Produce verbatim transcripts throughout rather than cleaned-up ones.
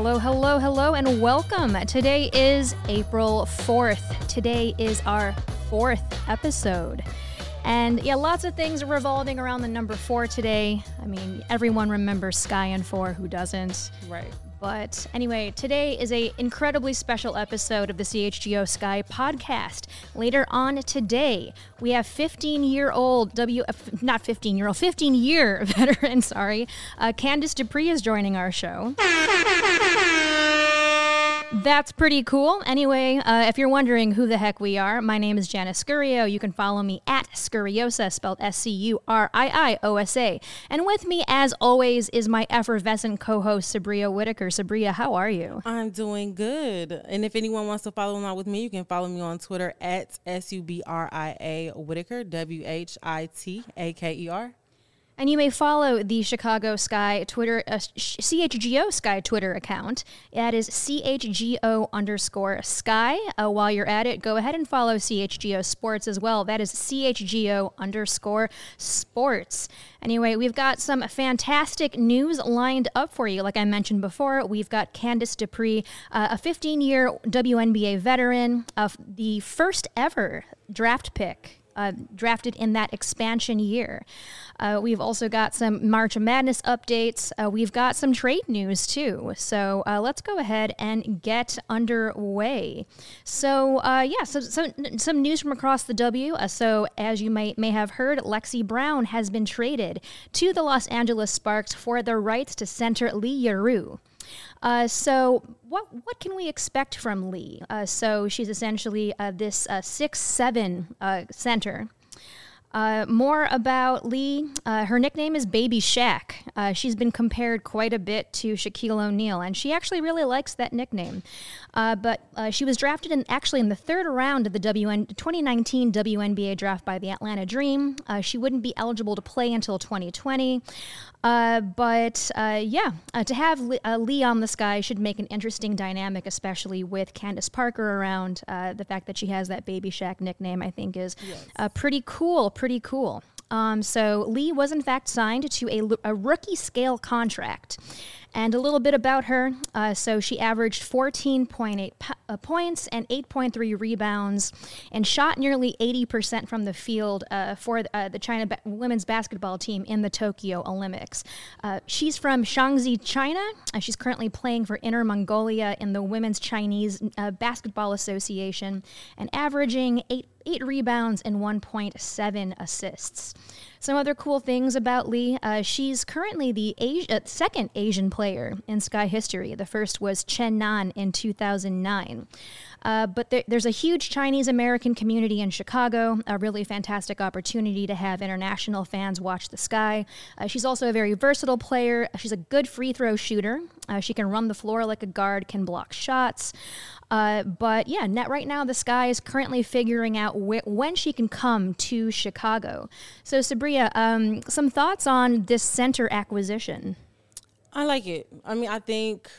Hello, hello, hello, and welcome. Today is April fourth. Today is our fourth episode. And yeah, lots of things are revolving around the number four today. I mean, everyone remembers Sky and four, who doesn't? Right. But anyway, today is a incredibly special episode of the C H G O Sky podcast. Later on today, we have fifteen-year-old W, uh, not fifteen-year-old, fifteen-year veteran, sorry, uh, Candice Dupree is joining our show. That's pretty cool. Anyway, uh, if you're wondering who the heck we are, my name is Janice Scurio. You can follow me at Scuriosa, spelled S C U R I I O S A. And with me, as always, is my effervescent co-host, Sabria Whitaker. Sabria, how are you? I'm doing good. And if anyone wants to follow along with me, you can follow me on Twitter at S U B R I A Whitaker, W H I T A K E R. And you may follow the Chicago Sky Twitter, uh, C H G O Sky Twitter account. That is C H G O underscore Sky. Uh, while you're at it, go ahead and follow C H G O Sports as well. That is C H G O underscore Sports. Anyway, we've got some fantastic news lined up for you. Like I mentioned before, we've got Candice Dupree, uh, a fifteen-year W N B A veteran, of the first ever draft pick. Uh, drafted in that expansion year. Uh, we've also got some March Madness updates. Uh, we've got some trade news too. So uh, let's go ahead and get underway. So uh, yeah, so, so some news from across the W. Uh, so as you may may have heard, Lexi Brown has been traded to the Los Angeles Sparks for the rights to center Lee Yarou. Uh, so what what can we expect from Lee? Uh, so she's essentially uh, this uh, six seven uh, center. Uh, more about Lee. Uh, her nickname is Baby Shaq. Uh, she's been compared quite a bit to Shaquille O'Neal, and she actually really likes that nickname. Uh, but uh, she was drafted in actually in the third round of the W N twenty nineteen W N B A draft by the Atlanta Dream. Uh, she wouldn't be eligible to play until twenty twenty. Uh, but uh, yeah, uh, to have Lee, uh, Lee on the Sky should make an interesting dynamic, especially with Candace Parker around. Uh, the fact that she has that Baby Shaq nickname, I think, is yes. uh, pretty cool. Pretty cool. Um, so Lee was in fact signed to a, a rookie scale contract. And a little bit about her. Uh, so she averaged fourteen point eight po- uh, points and eight point three rebounds and shot nearly eighty percent from the field uh, for uh, the China ba- women's basketball team in the Tokyo Olympics. Uh, she's from Shaanxi, China. Uh, she's currently playing for Inner Mongolia in the Women's Chinese uh, Basketball Association and averaging eight eight rebounds and one point seven assists. Some other cool things about Lee. Uh, she's currently the Asi- uh, second Asian player in Sky history. The first was Chen Nan in two thousand nine. Uh, but there, there's a huge Chinese-American community in Chicago, a really fantastic opportunity to have international fans watch the Sky. Uh, she's also a very versatile player. She's a good free throw shooter. Uh, she can run the floor like a guard, can block shots. Uh, but yeah, net right now, the Sky is currently figuring out wh- when she can come to Chicago. So Sabria, um, some thoughts on this center acquisition? I like it. I mean, I think,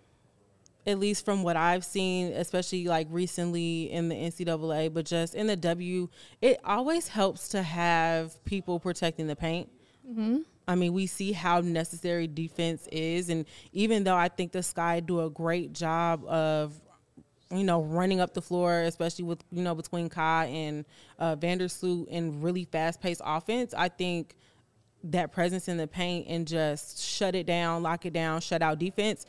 at least from what I've seen, especially like recently in the N C double A, but just in the W, it always helps to have people protecting the paint. Mm-hmm. I mean, we see how necessary defense is. And even though I think the Sky do a great job of, you know, running up the floor, especially with, you know, between Kai and uh, Vandersloot and really fast-paced offense, I think that presence in the paint and just shut it down, lock it down, shut out defense,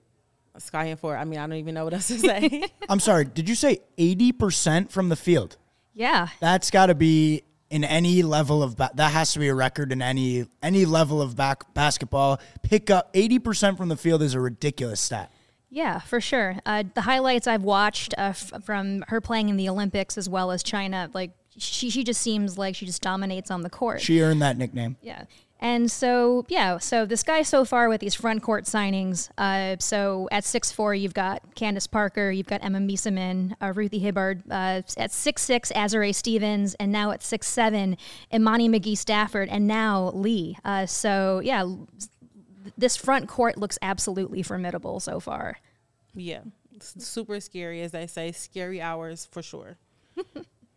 Sky and four. I mean, I don't even know what else to say. I'm sorry. Did you say eighty percent from the field? Yeah. That's got to be in any level of ba- – that has to be a record in any any level of back basketball. Pick up eighty percent from the field is a ridiculous stat. Yeah, for sure. Uh, the highlights I've watched uh, f- from her playing in the Olympics as well as China, like she she just seems like she just dominates on the court. She earned that nickname. Yeah. And so, yeah, so this guy so far with these front court signings, uh, so at six foot four, you've got Candace Parker, you've got Emma Miesemann, uh, Ruthie Hibbard, uh, at six foot six, Azurá Stevens, and now at six foot seven, Imani McGee-Stafford, and now Lee. Uh, so, yeah, this front court looks absolutely formidable so far. Yeah, it's super scary, as they say, scary hours for sure.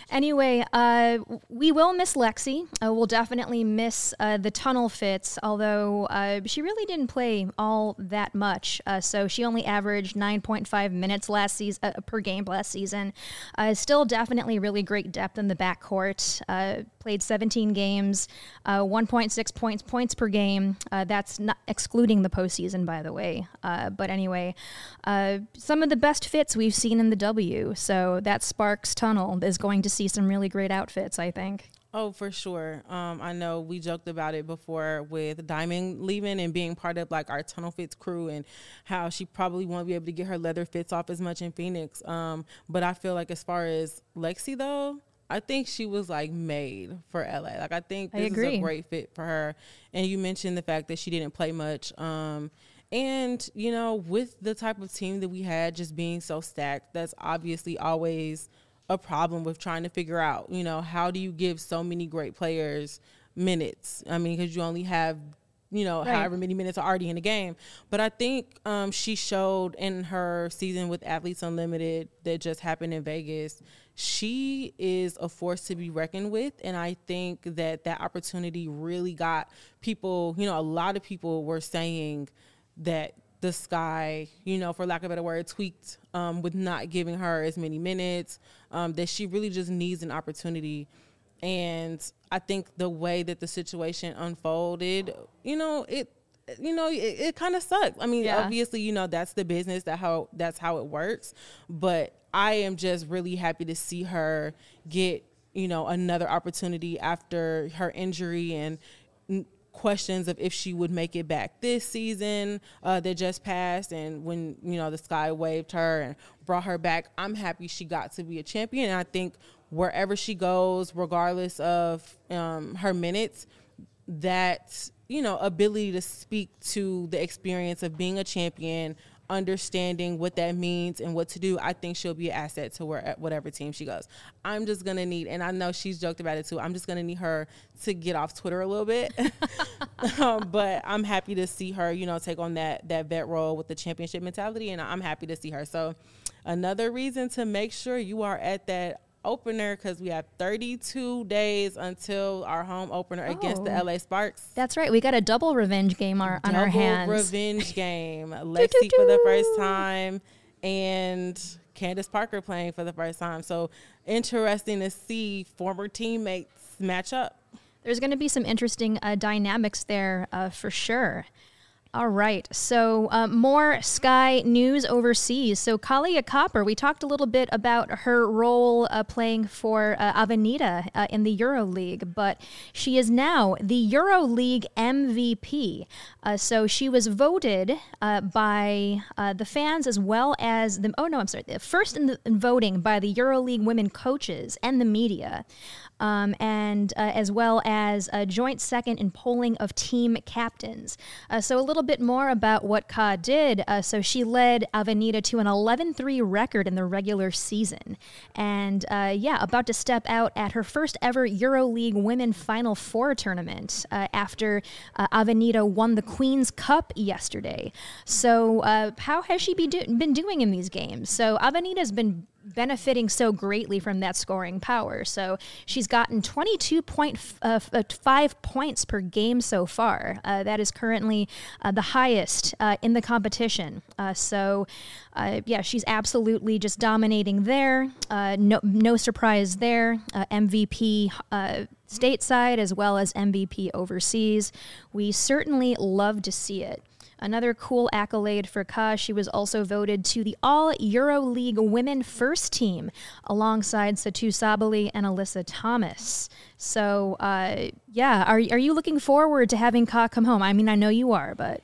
Anyway, uh, we will miss Lexi. Uh, we'll definitely miss uh, the tunnel fits, although uh, she really didn't play all that much. Uh, so she only averaged nine point five minutes last season uh, per game last season. Uh, still definitely really great depth in the backcourt. Uh, played seventeen games, uh, one point six points points per game. Uh, that's not excluding the postseason, by the way. Uh, but anyway, uh, some of the best fits we've seen in the W. So that Sparks tunnel is going to see some really great outfits, I think. Oh, for sure. Um, I know we joked about it before with Diamond leaving and being part of like our tunnel fits crew and how she probably won't be able to get her leather fits off as much in Phoenix. Um, but I feel like as far as Lexi though, I think she was like made for L A. Like I think this I agree. is a great fit for her. And you mentioned the fact that she didn't play much. Um, and you know, with the type of team that we had just being so stacked, that's obviously always a problem with trying to figure out, you know, how do you give so many great players minutes? I mean, because you only have, you know, right. however many minutes are already in the game. But I think um, she showed in her season with Athletes Unlimited that just happened in Vegas, she is a force to be reckoned with. And I think that that opportunity really got people, you know, a lot of people were saying that the Sky, you know, for lack of a better word, tweaked um, with not giving her as many minutes, um, that she really just needs an opportunity. And I think the way that the situation unfolded, you know, it, you know, it, it kind of sucked. I mean, yeah. obviously, you know, that's the business, that how that's how it works. But I am just really happy to see her get, you know, another opportunity after her injury and n- questions of if she would make it back this season uh, that just passed, and when, you know, the Sky waved her and brought her back. I'm happy she got to be a champion, and I think wherever she goes, regardless of um, her minutes, that, you know, ability to speak to the experience of being a champion, understanding what that means and what to do, I think she'll be an asset to where, whatever team she goes. I'm just going to need, and I know she's joked about it too, I'm just going to need her to get off Twitter a little bit. um, but I'm happy to see her, you know, take on that, that vet role with the championship mentality, and I'm happy to see her. So another reason to make sure you are at that opener, because we have thirty-two days until our home opener oh, against the L A Sparks. That's right. We got a double revenge game our, on double our hands. Revenge game. Lexi for the first time and Candace Parker playing for the first time. So interesting to see former teammates match up. There's going to be some interesting uh, dynamics there uh, for sure. All right, so uh, more Sky news overseas. So Kalia Copper, we talked a little bit about her role uh, playing for uh, Avenida uh, in the EuroLeague, but she is now the EuroLeague M V P. Uh, so she was voted uh, by uh, the fans as well as the, oh no, I'm sorry, first in, the, in voting by the EuroLeague women coaches and the media. Um, and uh, as well as a joint second in polling of team captains. Uh, so a little bit more about what Ka did. Uh, so she led Avenida to an eleven three record in the regular season. And uh, yeah, about to step out at her first ever EuroLeague Women Final Four tournament uh, after uh, Avenida won the Queen's Cup yesterday. So uh, how has she be do- been doing in these games? So Avenida's been benefiting so greatly from that scoring power. So she's gotten twenty-two point five points per game so far. Uh, that is currently uh, the highest uh, in the competition. Uh, so uh, yeah, she's absolutely just dominating there. Uh, no, no surprise there. Uh, M V P uh, stateside as well as M V P overseas. We certainly love to see it. Another cool accolade for Ka, she was also voted to the All-EuroLeague Women First Team alongside Satu Sabali and Alyssa Thomas. So, uh, yeah, are, are you looking forward to having Ka come home? I mean, I know you are, but...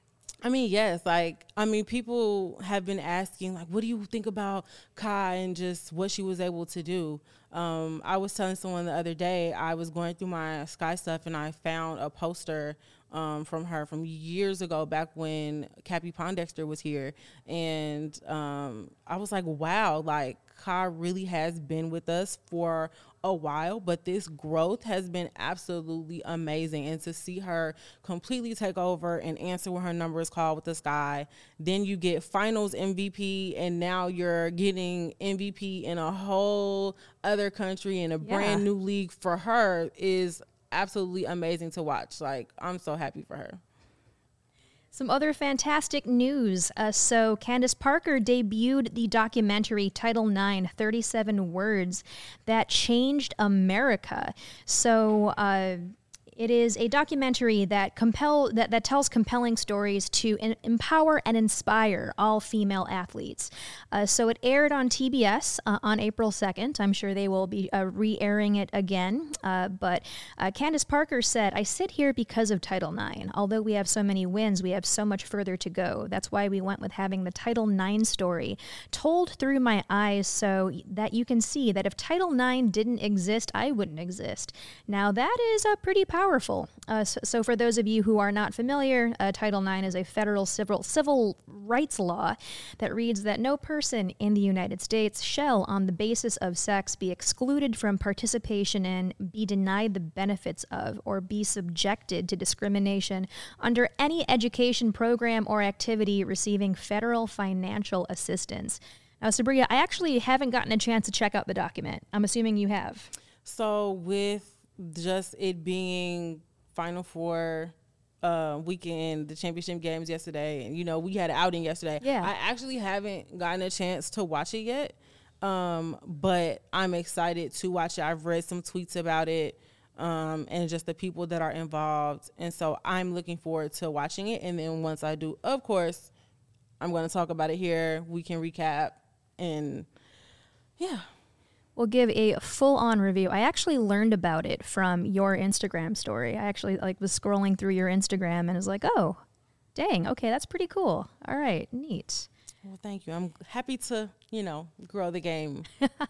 I mean, yes. Like, I mean, people have been asking, like, what do you think about Ka and just what she was able to do? Um, I was telling someone the other day, I was going through my Sky stuff and I found a poster um, from her from years ago, back when Cappy Pondexter was here. And um, I was like, wow, like, Ka really has been with us for a while, but this growth has been absolutely amazing. And to see her completely take over and answer when her number is called with the Sky, then you get finals M V P, and now you're getting M V P in a whole other country in a Yeah. brand new league for her is absolutely amazing to watch. Like, I'm so happy for her. Some other fantastic news. Uh, so Candace Parker debuted the documentary Title nine, thirty-seven Words That Changed America. So uh, it is a documentary that compel that, that tells compelling stories to in, empower and inspire all female athletes. Uh, so it aired on T B S uh, on April second. I'm sure they will be uh, re-airing it again. Uh, but uh, Candace Parker said, "I sit here because of Title nine. Although we have so many wins, we have so much further to go. That's why we went with having the Title nine story told through my eyes so that you can see that if Title nine didn't exist, I wouldn't exist." Now that is a pretty powerful Powerful. Uh, so, so for those of you who are not familiar, uh, Title nine is a federal civil civil rights law that reads that no person in the United States shall, on the basis of sex, be excluded from participation in, be denied the benefits of, or be subjected to discrimination under any education program or activity receiving federal financial assistance. Now, Sabria, I actually haven't gotten a chance to check out the document. I'm assuming you have. So with just it being Final Four uh, weekend, the championship games yesterday, and, you know, we had an outing yesterday. Yeah. I actually haven't gotten a chance to watch it yet, um, but I'm excited to watch it. I've read some tweets about it um, and just the people that are involved, and so I'm looking forward to watching it. And then once I do, of course, I'm going to talk about it here. We can recap, and yeah. We'll give a full-on review. I actually learned about it from your Instagram story. I actually like was scrolling through your Instagram and was like, oh, dang, okay, that's pretty cool. All right, neat. Well, thank you. I'm happy to, you know, grow the game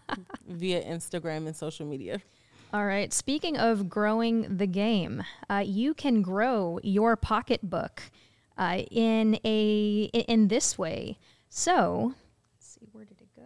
via Instagram and social media. All right, speaking of growing the game, uh, you can grow your pocketbook uh, in a in this way. So, let's see, where did it go?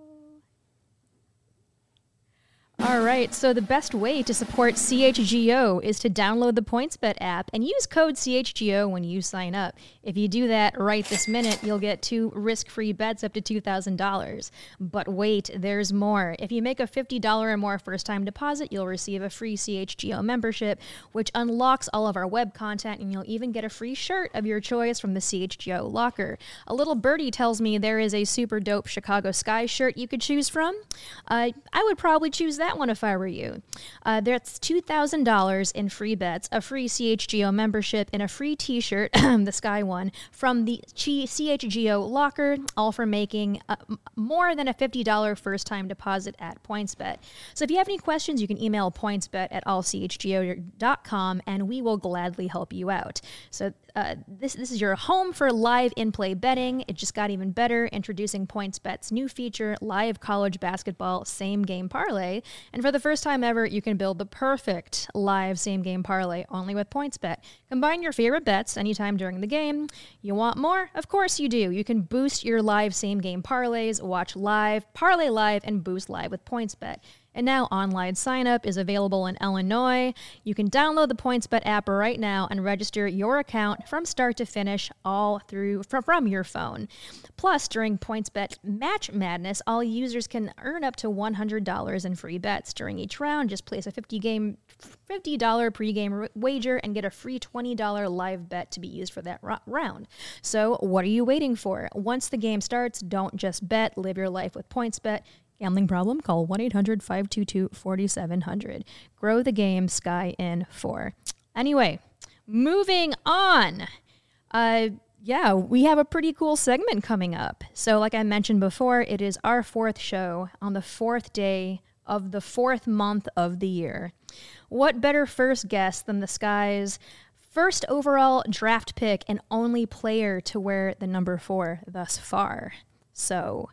All right, so the best way to support C H G O is to download the PointsBet app and use code C H G O when you sign up. If you do that right this minute, you'll get two risk-free bets up to two thousand dollars. But wait, there's more. If you make a fifty dollars or more first-time deposit, you'll receive a free C H G O membership, which unlocks all of our web content, and you'll even get a free shirt of your choice from the C H G O locker. A little birdie tells me there is a super dope Chicago Sky shirt you could choose from. Uh, I would probably choose that one if I were you. Uh, that's two thousand dollars in free bets, a free C H G O membership, and a free t-shirt, the Sky one, from the C H G O locker, all for making uh, more than a fifty dollars first-time deposit at PointsBet. So if you have any questions, you can email pointsbet at all c h g o dot com, and we will gladly help you out. So uh, this, this is your home for live in-play betting. It just got even better, introducing PointsBet's new feature, Live College Basketball Same Game Parlay. And for the first time ever, you can build the perfect live same-game parlay only with PointsBet. Combine your favorite bets anytime during the game. You want more? Of course you do. You can boost your live same-game parlays, watch live, parlay live, and boost live with PointsBet. And now online sign-up is available in Illinois. You can download the PointsBet app right now and register your account from start to finish all through from, from your phone. Plus, during PointsBet Match Madness, all users can earn up to one hundred dollars in free bets during each round. Just place a fifty game, fifty dollars pregame wager and get a free twenty dollars live bet to be used for that ro- round. So what are you waiting for? Once the game starts, don't just bet. Live your life with PointsBet. Gambling problem? Call one eight hundred five two two four seven zero zero. Grow the game, Sky in four. Anyway, moving on. Uh, yeah, we have a pretty cool segment coming up. So like I mentioned before, it is our fourth show on the fourth day of the fourth month of the year. What better first guest than the Sky's first overall draft pick and only player to wear the number four thus far? So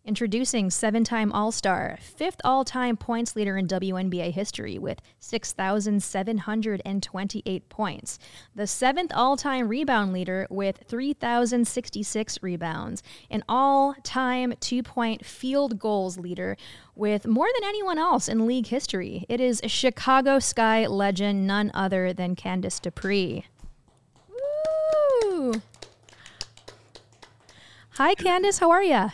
Introducing seven-time All-Star, fifth all-time points leader in W N B A history with six thousand seven hundred twenty-eight points. The seventh all-time rebound leader with three thousand sixty-six rebounds. An all-time two-point field goals leader with more than anyone else in league history. It is Chicago Sky legend, none other than Candace Dupree. Woo! Hi, Candace. How are you?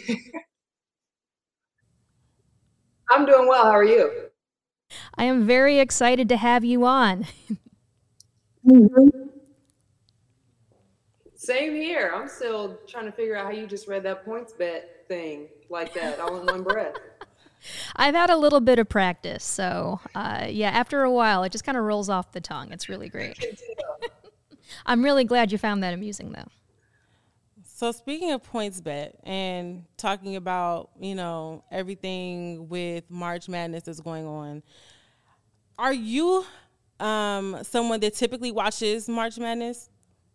I'm doing well. How are you? I am very excited to have you on. Mm-hmm. Same here. I'm still trying to figure out how you just read that points bet thing like that all in one breath. I've had a little bit of practice, so uh, yeah, after a while, it just kind of rolls off the tongue. It's really great. I'm really glad you found that amusing, though. So speaking of points bet and talking about, you know, everything with March Madness that's going on, are you um, someone that typically watches March Madness?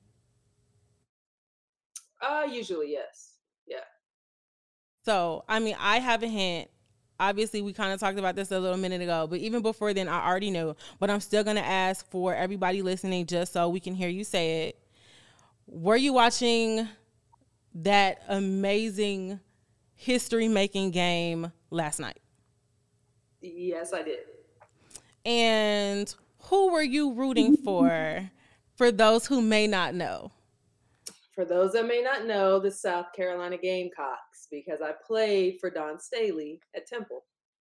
Uh, usually, yes. Yeah. So, I mean, I have a hint. Obviously, we kind of talked about this a little minute ago, but even before then, I already knew. But I'm still going to ask for everybody listening just so we can hear you say it. Were you watching that amazing history-making game last night? Yes, I did. And who were you rooting for, for those who may not know? For those that may not know, the South Carolina Gamecocks, because I played for Dawn Staley at Temple.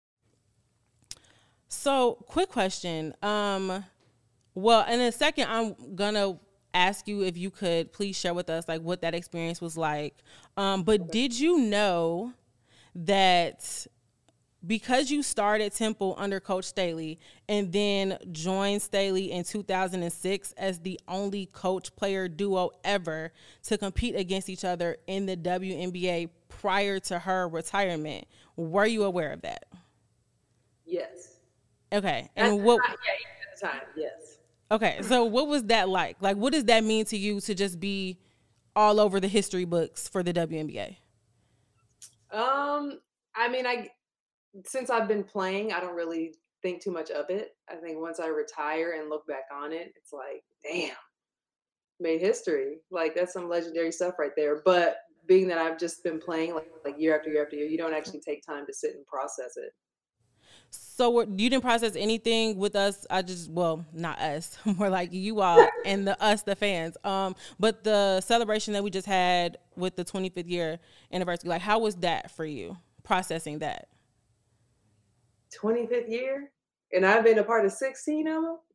So, quick question. Um, well, in a second, I'm going to ask you if you could please share with us like what that experience was like. Um, but okay. Did you know that because you started Temple under Coach Staley and then joined Staley in two thousand six as the only coach-player duo ever to compete against each other in the W N B A prior to her retirement, were you aware of that? Yes. Okay. And and what? Time, yeah, at the time, yes. Okay, so what was that like? Like, what does that mean to you to just be all over the history books for the W N B A? Um, I mean, I since I've been playing, I don't really think too much of it. I think once I retire and look back on it, it's like, damn, made history. Like, that's some legendary stuff right there. But being that I've just been playing like, like year after year after year, you don't actually take time to sit and process it. So you didn't process anything with us. I just, well, not us, more like you all and the us, the fans. Um, but the celebration that we just had with the twenty-fifth year anniversary, like how was that for you, processing that? twenty-fifth year? And I've been a part of sixteen of them?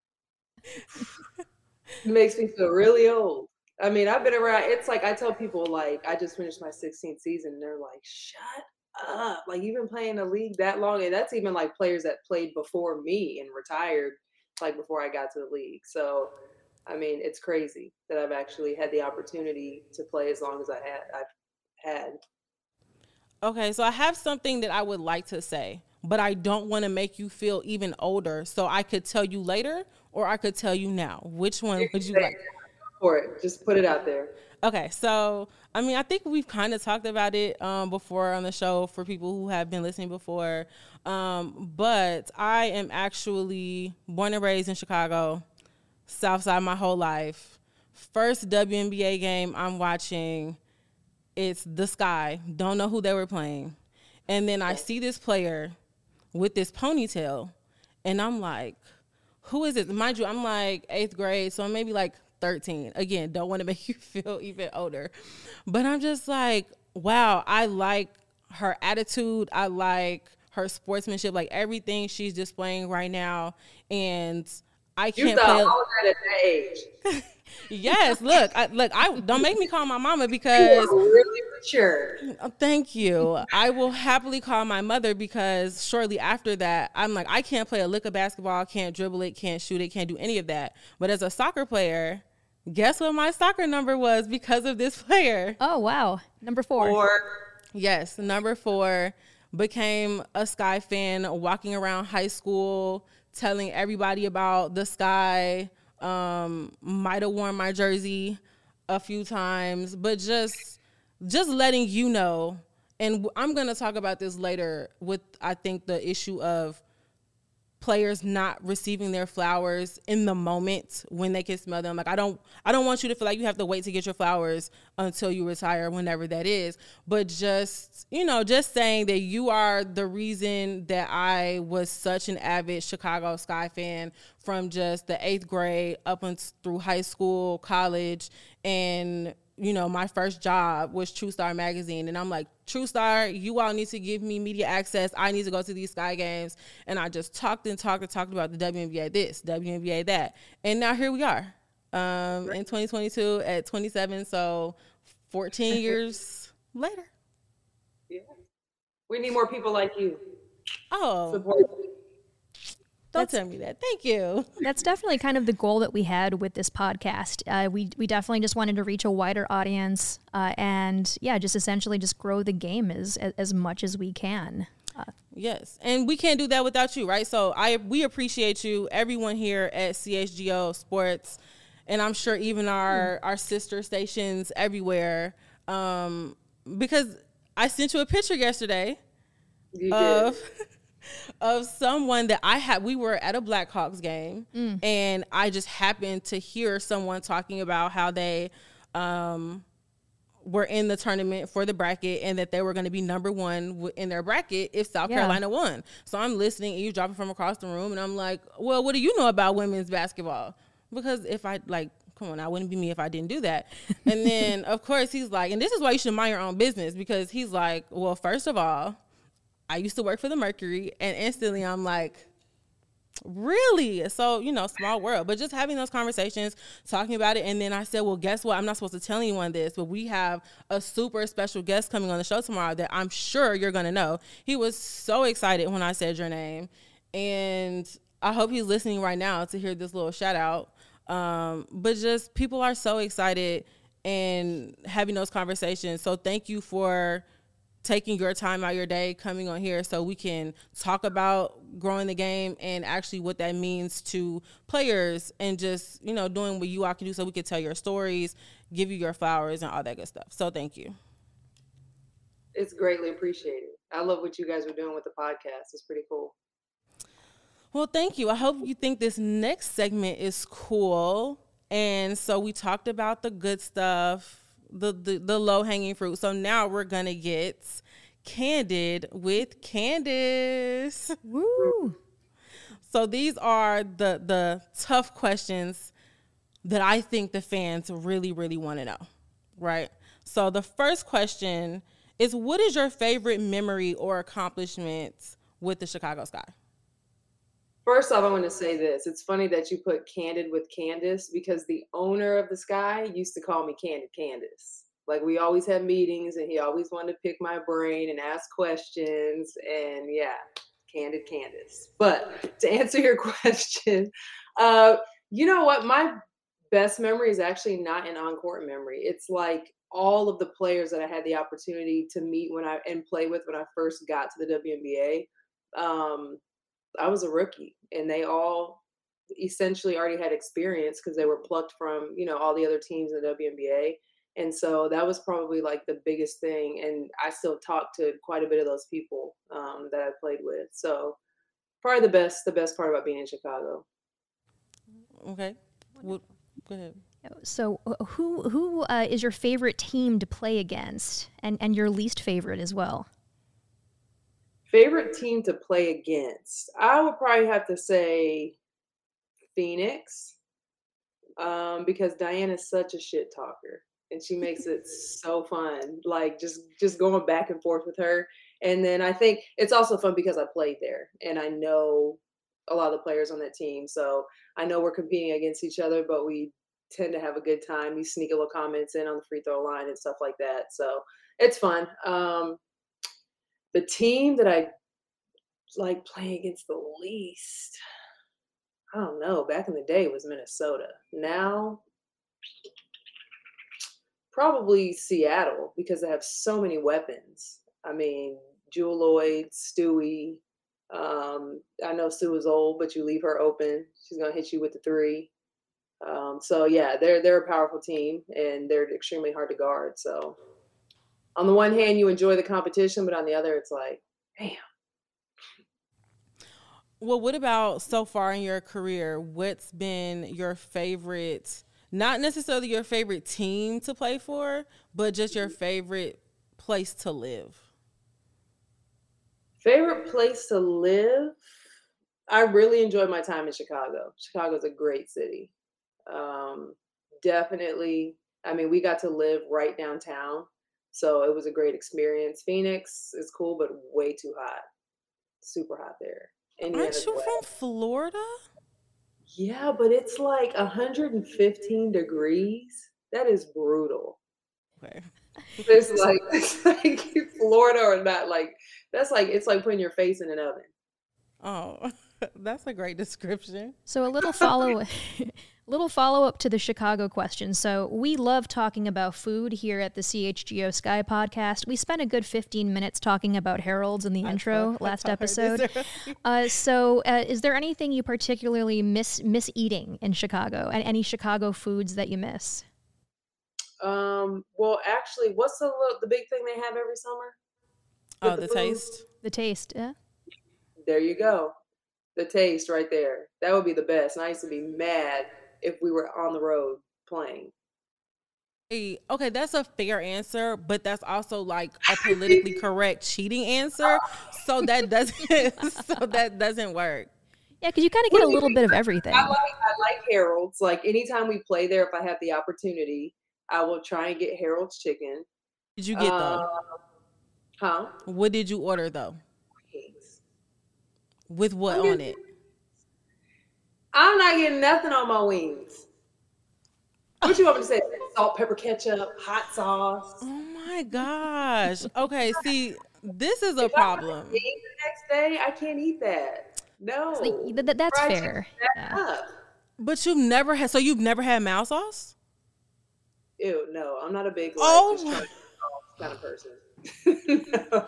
It makes me feel really old. I mean, I've been around. It's like I tell people, like, I just finished my sixteenth season, and they're like, shut up. Like, you've been playing the league that long. And that's even like players that played before me and retired, like, before I got to the league. So, I mean, it's crazy that I've actually had the opportunity to play as long as I had. I've had. Okay, so I have something that I would like to say, but I don't want to make you feel even older. So I could tell you later, or I could tell you now. Which one would you like? For it, just put it out there. Okay, so I mean, I think we've kind of talked about it um, before on the show for people who have been listening before. Um, but I am actually born and raised in Chicago, South Side my whole life. First W N B A game I'm watching, it's the Sky. Don't know who they were playing. And then I see this player with this ponytail, and I'm like, who is it? Mind you, I'm like eighth grade, so I'm maybe like thirteen. Again, don't want to make you feel even older. But I'm just like, wow, I like her attitude. I like her sportsmanship, like everything she's displaying right now. And I can't you thought play. all that at that age. Yes, look, I, look, I don't make me call my mama because you are really mature. Thank you. I will happily call my mother because shortly after that, I'm like, I can't play a lick of basketball, can't dribble it, can't shoot it, can't do any of that. But as a soccer player, guess what my soccer number was because of this player? Oh, wow. Number four. Four. Yes, number four. Became a Sky fan, walking around high school, telling everybody about the Sky. Um, might have worn my jersey a few times, but just just letting you know and I'm going to talk about this later with, I think, the issue of players not receiving their flowers in the moment when they can smell them. Like, I don't, I don't want you to feel like you have to wait to get your flowers until you retire, whenever that is. But just, you know, just saying that you are the reason that I was such an avid Chicago Sky fan from just the eighth grade up and through high school, college, and you know, my first job was True Star magazine. And I'm like, True Star, you all need to give me media access. I need to go to these Sky games. And I just talked and talked and talked about the W N B A this, W N B A that. And now here we are um, right. in twenty twenty-two at twenty-seven. So fourteen years later. Yeah. We need more people like you. Oh. Support. Don't tell me that. Thank you. That's definitely kind of the goal that we had with this podcast. Uh, we we definitely just wanted to reach a wider audience, uh, and yeah, just essentially just grow the game as as much as we can. Uh, yes, and we can't do that without you, right? So I we appreciate you, everyone here at C H G O Sports, and I'm sure even our our sister stations everywhere, um, because I sent you a picture yesterday you of. Did. of someone that I had, we were at a Blackhawks game mm. and I just happened to hear someone talking about how they um, were in the tournament for the bracket and that they were going to be number one in their bracket if South yeah. Carolina won. So I'm listening and you dropping from across the room and I'm like, well, what do you know about women's basketball? Because if I like, come on, I wouldn't be me if I didn't do that. And then of course he's like, and this is why you should mind your own business, because he's like, well, first of all, I used to work for the Mercury, and instantly I'm like, really? So, you know, small world, but just having those conversations, talking about it. And then I said, well, guess what? I'm not supposed to tell anyone this, but we have a super special guest coming on the show tomorrow that I'm sure you're going to know. He was so excited when I said your name, and I hope he's listening right now to hear this little shout out. Um, but just people are so excited and having those conversations. So thank you for taking your time out your day, coming on here so we can talk about growing the game and actually what that means to players, and just, you know, doing what you all can do so we can tell your stories, give you your flowers and all that good stuff. So thank you. It's greatly appreciated. I love what you guys are doing with the podcast. It's pretty cool. Well, thank you. I hope you think this next segment is cool. And so we talked about the good stuff, the the, the low-hanging fruit. So now we're going to get candid with Candace. Woo! So these are the the tough questions that I think the fans really, really want to know, right? So the first question is, what is your favorite memory or accomplishment with the Chicago Sky? First off, I want to say this. It's funny that you put Candid with Candace, because the owner of the Sky used to call me Candid Candace. Like, we always had meetings and he always wanted to pick my brain and ask questions. And yeah, Candid Candace. But to answer your question, uh, you know what? My best memory is actually not an on-court memory. It's like all of the players that I had the opportunity to meet when I and play with when I first got to the W N B A. Um, I was a rookie, and they all essentially already had experience because they were plucked from, you know, all the other teams in the W N B A. And so that was probably like the biggest thing. And I still talk to quite a bit of those people um, that I played with. So probably the best, the best part about being in Chicago. Okay. Well, go ahead. So who, who uh, is your favorite team to play against, and, and your least favorite as well? Favorite team to play against? I would probably have to say Phoenix, um, because Diana's such a shit talker, and she makes it so fun. Like just just going back and forth with her. And then I think it's also fun because I played there and I know a lot of the players on that team, so I know we're competing against each other, but we tend to have a good time. You sneak a little comments in on the free throw line and stuff like that, so it's fun. Um, The team that I like playing against the least, I don't know. Back in the day, it was Minnesota. Now, probably Seattle, because they have so many weapons. I mean, Jewel Lloyd, Stewie. Um, I know Sue is old, but you leave her open, she's gonna hit you with the three. Um, so yeah, they're they're a powerful team, and they're extremely hard to guard. So. on the one hand, you enjoy the competition, but on the other, it's like, damn. Well, what about so far in your career? What's been your favorite, not necessarily your favorite team to play for, but just your favorite place to live? Favorite place to live? I really enjoyed my time in Chicago. Chicago's a great city. Um, definitely. I mean, we got to live right downtown, so it was a great experience. Phoenix is cool, but way too hot. Super hot there. Aren't you from Florida? Yeah, but it's like one hundred fifteen degrees. That is brutal. Okay. It's like, it's like Florida or not. Like, that's like, it's like putting your face in an oven. Oh, that's a great description. So a little follow little follow up to the Chicago question. So we love talking about food here at the C H G O Sky podcast. We spent a good fifteen minutes talking about Harold's in the I intro thought- last I thought I heard episode. this Uh, so uh, is there anything you particularly miss miss eating in Chicago? And any Chicago foods that you miss? Um, well, actually, what's the little, the big thing they have every summer? Oh, With the food? taste? The taste, yeah? There you go. The taste right there. That would be the best. And I used to be mad if we were on the road playing. Hey, okay, that's a fair answer, but that's also like a politically correct cheating answer. So that doesn't so that doesn't work. Yeah, because you kind of get a little bit of everything. I like I like Harold's. Like anytime we play there, if I have the opportunity, I will try and get Harold's chicken. Did you get though? Uh, huh? What did you order though? Wings. With what I'm on getting- it? I'm not getting nothing on my wings. What you want me to say? Salt, pepper, ketchup, hot sauce. Oh my gosh. Okay, see, this is a If I want problem. to eat the next day, I can't eat that. No. It's like, th- th- that's Fried fair. chicken, Yeah. up. But you've never had so you've never had mouse sauce? Ew, no, I'm not a big like Oh just my- trying to eat kind of person. No.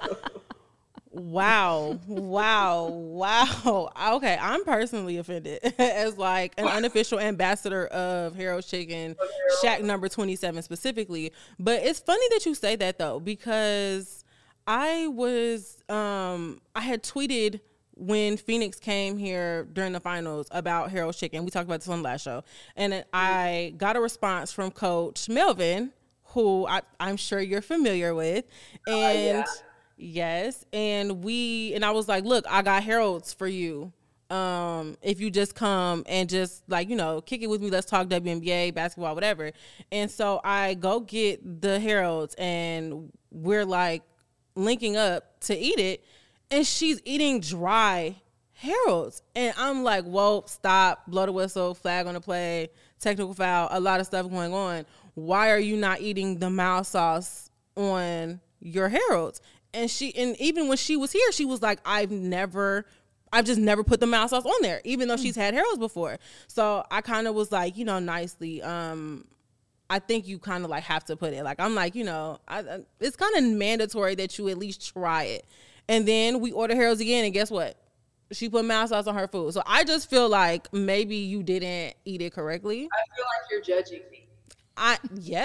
Wow. Wow. Wow. Okay, I'm personally offended as like an unofficial ambassador of Harold's Chicken, Shack number twenty-seven specifically. But it's funny that you say that though, because I was um I had tweeted when Phoenix came here during the finals about Harold's Chicken. We talked about this on the last show. And I got a response from Coach Melvin, who I, I'm sure you're familiar with. And yeah. yes, and we and I was like, look, I got Harold's for you. Um, if you just come and just like, you know, kick it with me, let's talk W N B A, basketball, whatever. And so I go get the Harold's and we're like linking up to eat it. And she's eating dry Harold's. And I'm like, whoa, stop, blow the whistle, flag on the play, technical foul, a lot of stuff going on. Why are you not eating the mild sauce on your Harold's? And she, and even when she was here, she was like, I've never, I've just never put the mild sauce on there, even though she's had Harold's before. So I kind of was like, you know, nicely, um, I think you kind of like have to put it. Like, I'm like, you know, I, I, it's kind of mandatory that you at least try it. And then we order Harold's again, and guess what? She put mild sauce on her food. So I just feel like maybe you didn't eat it correctly. I feel like you're judging me. I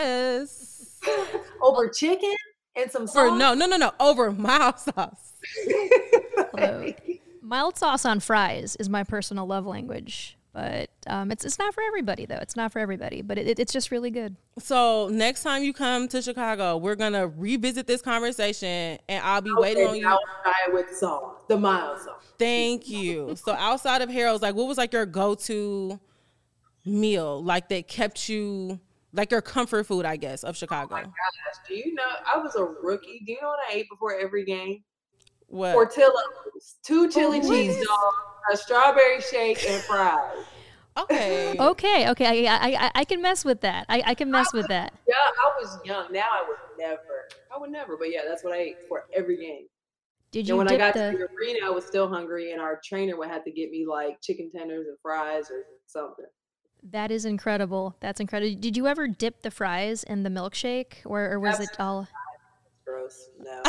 yes. Over chicken and some For sauce? no, no, no, no. Over mild sauce. Although, mild sauce on fries is my personal love language. But um, it's it's not for everybody, though. It's not for everybody. But it, it's just really good. So next time you come to Chicago, we're going to revisit this conversation, and I'll be Okay, waiting on you. I'll try it with sauce, the mild sauce. Thank you. So outside of Harold's, like, what was like your go-to meal, like that kept you, like your comfort food, I guess, of Chicago? Oh my gosh, do you know, I was a rookie. Do you know what I ate before every game? What? Portillo's, two chili Oh, cheese what? dogs, a strawberry shake, and fries. Okay. Okay, okay. I I, I, I can mess with that. I, I can mess with that. Yeah, I was young. Now I would never. I would never. But yeah, that's what I ate for every game. Did And you when I dip got the... to the arena, I was still hungry, and our trainer would have to get me like chicken tenders and fries or something. That is incredible. That's incredible. Did you ever dip the fries in the milkshake, or, or was it all? Gross. No.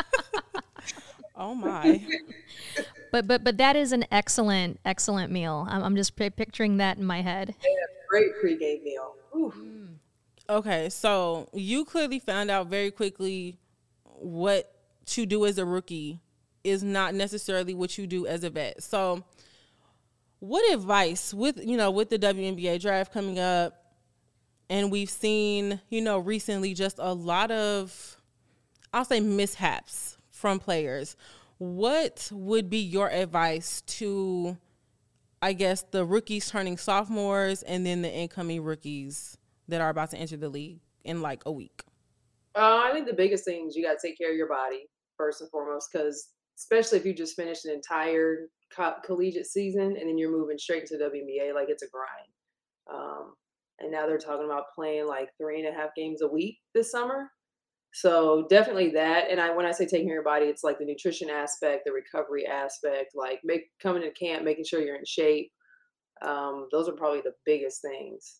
Oh my. But but but that is an excellent excellent meal. I'm I'm just pi picturing that in my head. Great pregame meal. Ooh. Okay, so you clearly found out very quickly what you do as a rookie is not necessarily what you do as a vet. So what advice with, you know, with the W N B A draft coming up, and we've seen, you know, recently just a lot of, I'll say, mishaps from players. What would be your advice to, I guess, the rookies turning sophomores and then the incoming rookies that are about to enter the league in like a week? Uh, I think the biggest thing is you got to take care of your body first and foremost, because especially if you just finished an entire co- collegiate season and then you're moving straight into W N B A, like it's a grind. Um, and now they're talking about playing like three and a half games a week this summer. So definitely that. And I, when I say taking care of your body, it's like the nutrition aspect, the recovery aspect, like make coming to camp, making sure you're in shape. Um, those are probably the biggest things.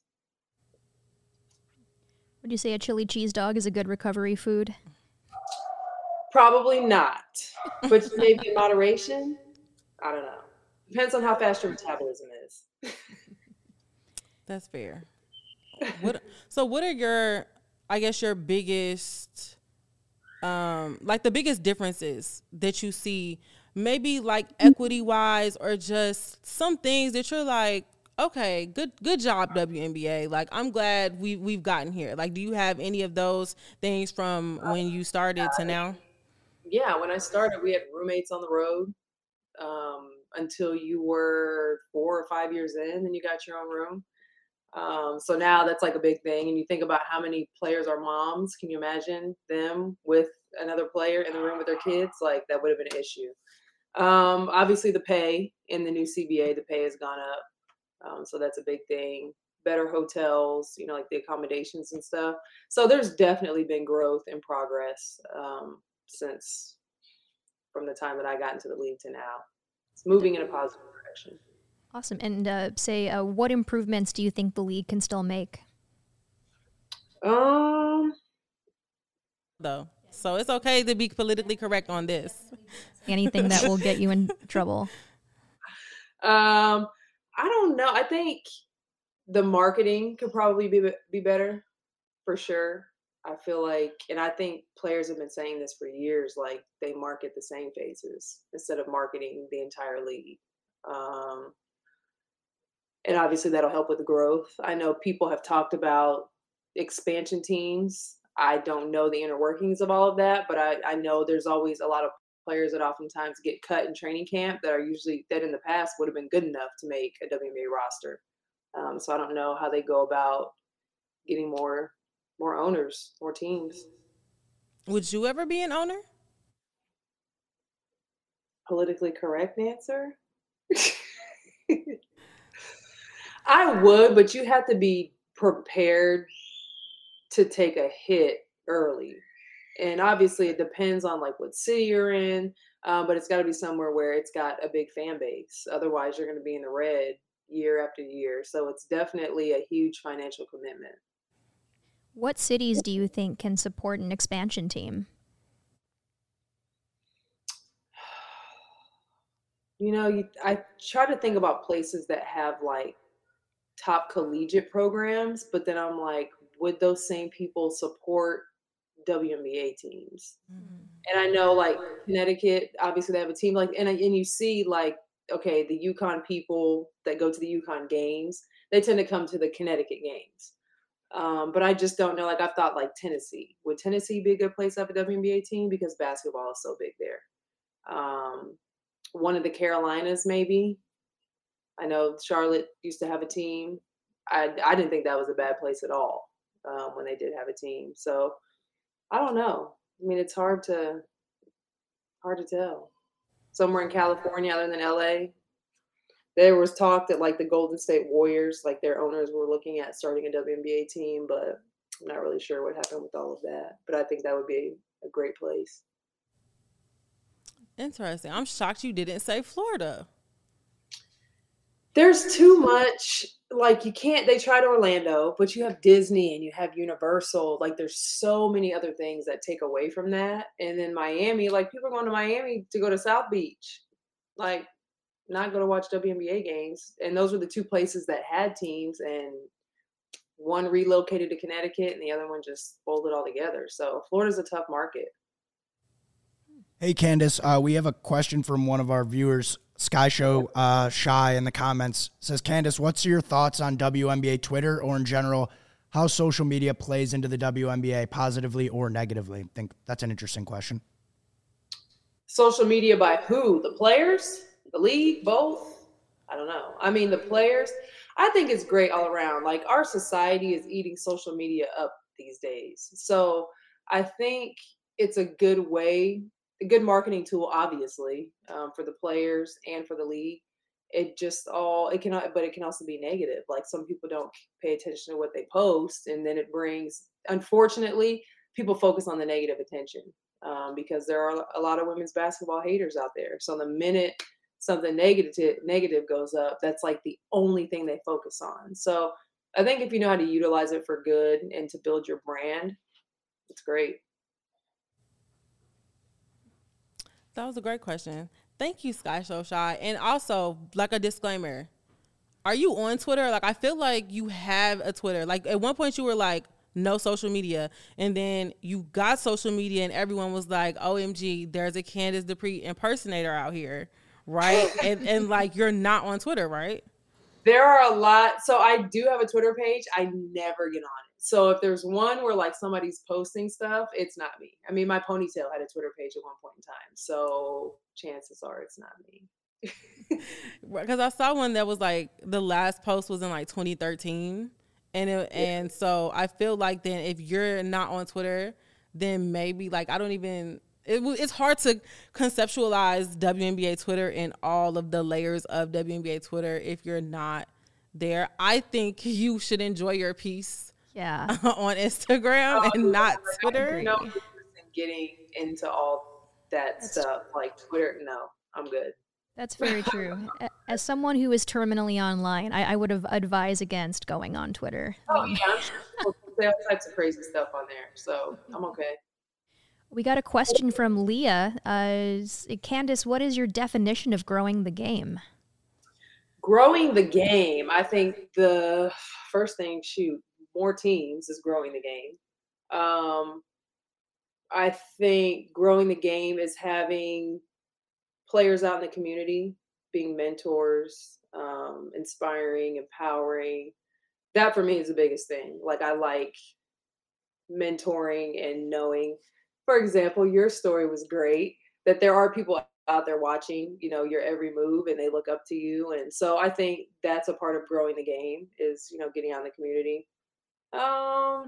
Would you say a chili cheese dog is a good recovery food? Probably not, but maybe in moderation. I don't know. Depends on how fast your metabolism is. That's fair. What? So what are your, I guess, your biggest, um, like the biggest differences that you see, maybe like equity wise, or just some things that you're like, okay, good, good job, W N B A. Like, I'm glad we we've gotten here. Like, do you have any of those things from when you started to now? Yeah, when I started, we had roommates on the road um, until you were four or five years in, then you got your own room. Um, so now that's like a big thing. And you think about how many players are moms. Can you imagine them with another player in the room with their kids? Like, that would have been an issue. Um, obviously, the pay in the new C B A, the pay has gone up. Um, so that's a big thing. Better hotels, you know, like the accommodations and stuff. So there's definitely been growth and progress um, since from the time that I got into the league to now. It's moving in a positive direction. Awesome. And uh, say, uh, what improvements do you think the league can still make? Um, Though, so it's okay to be politically correct on this. Anything that will get you in trouble? Um, I don't know. I think the marketing could probably be be better, for sure. I feel like, and I think players have been saying this for years, like they market the same faces instead of marketing the entire league. Um, and obviously that'll help with the growth. I know people have talked about expansion teams. I don't know the inner workings of all of that, but I, I know there's always a lot of players that oftentimes get cut in training camp that are usually, that in the past would have been good enough to make a W N B A roster. Um, so I don't know how they go about getting more more owners, more teams. Would you ever be an owner? Politically correct answer? I would, but you have to be prepared to take a hit early. And obviously it depends on like what city you're in, uh, but it's got to be somewhere where it's got a big fan base. Otherwise you're going to be in the red year after year. So it's definitely a huge financial commitment. What cities do you think can support an expansion team? You know, you, I try to think about places that have like top collegiate programs, but then I'm like, would those same people support W N B A teams? Mm-hmm. And I know like Connecticut, obviously they have a team like, and, and you see like, okay, the UConn people that go to the UConn games, they tend to come to the Connecticut games. Um, but I just don't know. Like I've thought like Tennessee. Would Tennessee be a good place to have a W N B A team? Because basketball is so big there. Um, one of the Carolinas, maybe. I know Charlotte used to have a team. I, I didn't think that was a bad place at all um, when they did have a team. So I don't know. I mean, it's hard to hard to tell. Somewhere in California other than L A. There was talk that like the Golden State Warriors, like their owners were looking at starting a W N B A team, but I'm not really sure what happened with all of that. But I think that would be a great place. Interesting. I'm shocked you didn't say Florida. There's too much, like you can't, they tried Orlando, but you have Disney and you have Universal. Like there's so many other things that take away from that. And then Miami, like people are going to Miami to go to South Beach. Like, not going to watch W N B A games. And those were the two places that had teams, and one relocated to Connecticut and the other one just folded all together. So Florida's a tough market. Hey, Candace, uh, we have a question from one of our viewers, Sky Show uh, Shy, in the comments. It says, Candace, what's your thoughts on W N B A Twitter, or in general, how social media plays into the W N B A positively or negatively? I think that's an interesting question. Social media by who? The players? The league? Both? I don't know. I mean, the players, I think it's great all around. Like, our society is eating social media up these days. So I think it's a good way, a good marketing tool, obviously, um, for the players and for the league. It just all, it cannot, but it can also be negative. Like, some people don't pay attention to what they post, and then it brings, unfortunately, people focus on the negative attention um, because there are a lot of women's basketball haters out there. So the minute something negative negative goes up, that's like the only thing they focus on. So I think if you know how to utilize it for good and to build your brand, it's great. That was a great question. Thank you, Sky Show Shy. And also, like a disclaimer, are you on Twitter? Like, I feel like you have a Twitter. Like, at one point you were like, no social media. And then you got social media and everyone was like, O M G, there's a Candace Dupree impersonator out here, right? and, and like, you're not on Twitter, right? There are a lot. So I do have a Twitter page. I never get on it. So if there's one where like somebody's posting stuff, it's not me. I mean, my ponytail had a Twitter page at one point in time. So chances are it's not me. Because I saw one that was like, the last post was in like twenty thirteen. And it, yeah. and so I feel like then if you're not on Twitter, then maybe like, I don't even, it, it's hard to conceptualize W N B A Twitter and all of the layers of W N B A Twitter if you're not there. I think you should enjoy your peace. Yeah, on Instagram oh, and not Twitter. No, getting into all that That's stuff true. Like Twitter. No, I'm good. That's very true. As someone who is terminally online, I, I would have advised against going on Twitter. Oh um, yeah, I'm sure people say all types of crazy stuff on there, so I'm okay. We got a question from Leah. Uh, Candace, what is your definition of growing the game? Growing the game, I think the first thing, shoot. More teams is growing the game. Um, I think growing the game is having players out in the community, being mentors, um, inspiring, empowering. That for me is the biggest thing. Like, I like mentoring and knowing, for example, your story was great, that there are people out there watching, you know, your every move and they look up to you. And so I think that's a part of growing the game is, you know, getting out in the community. Um,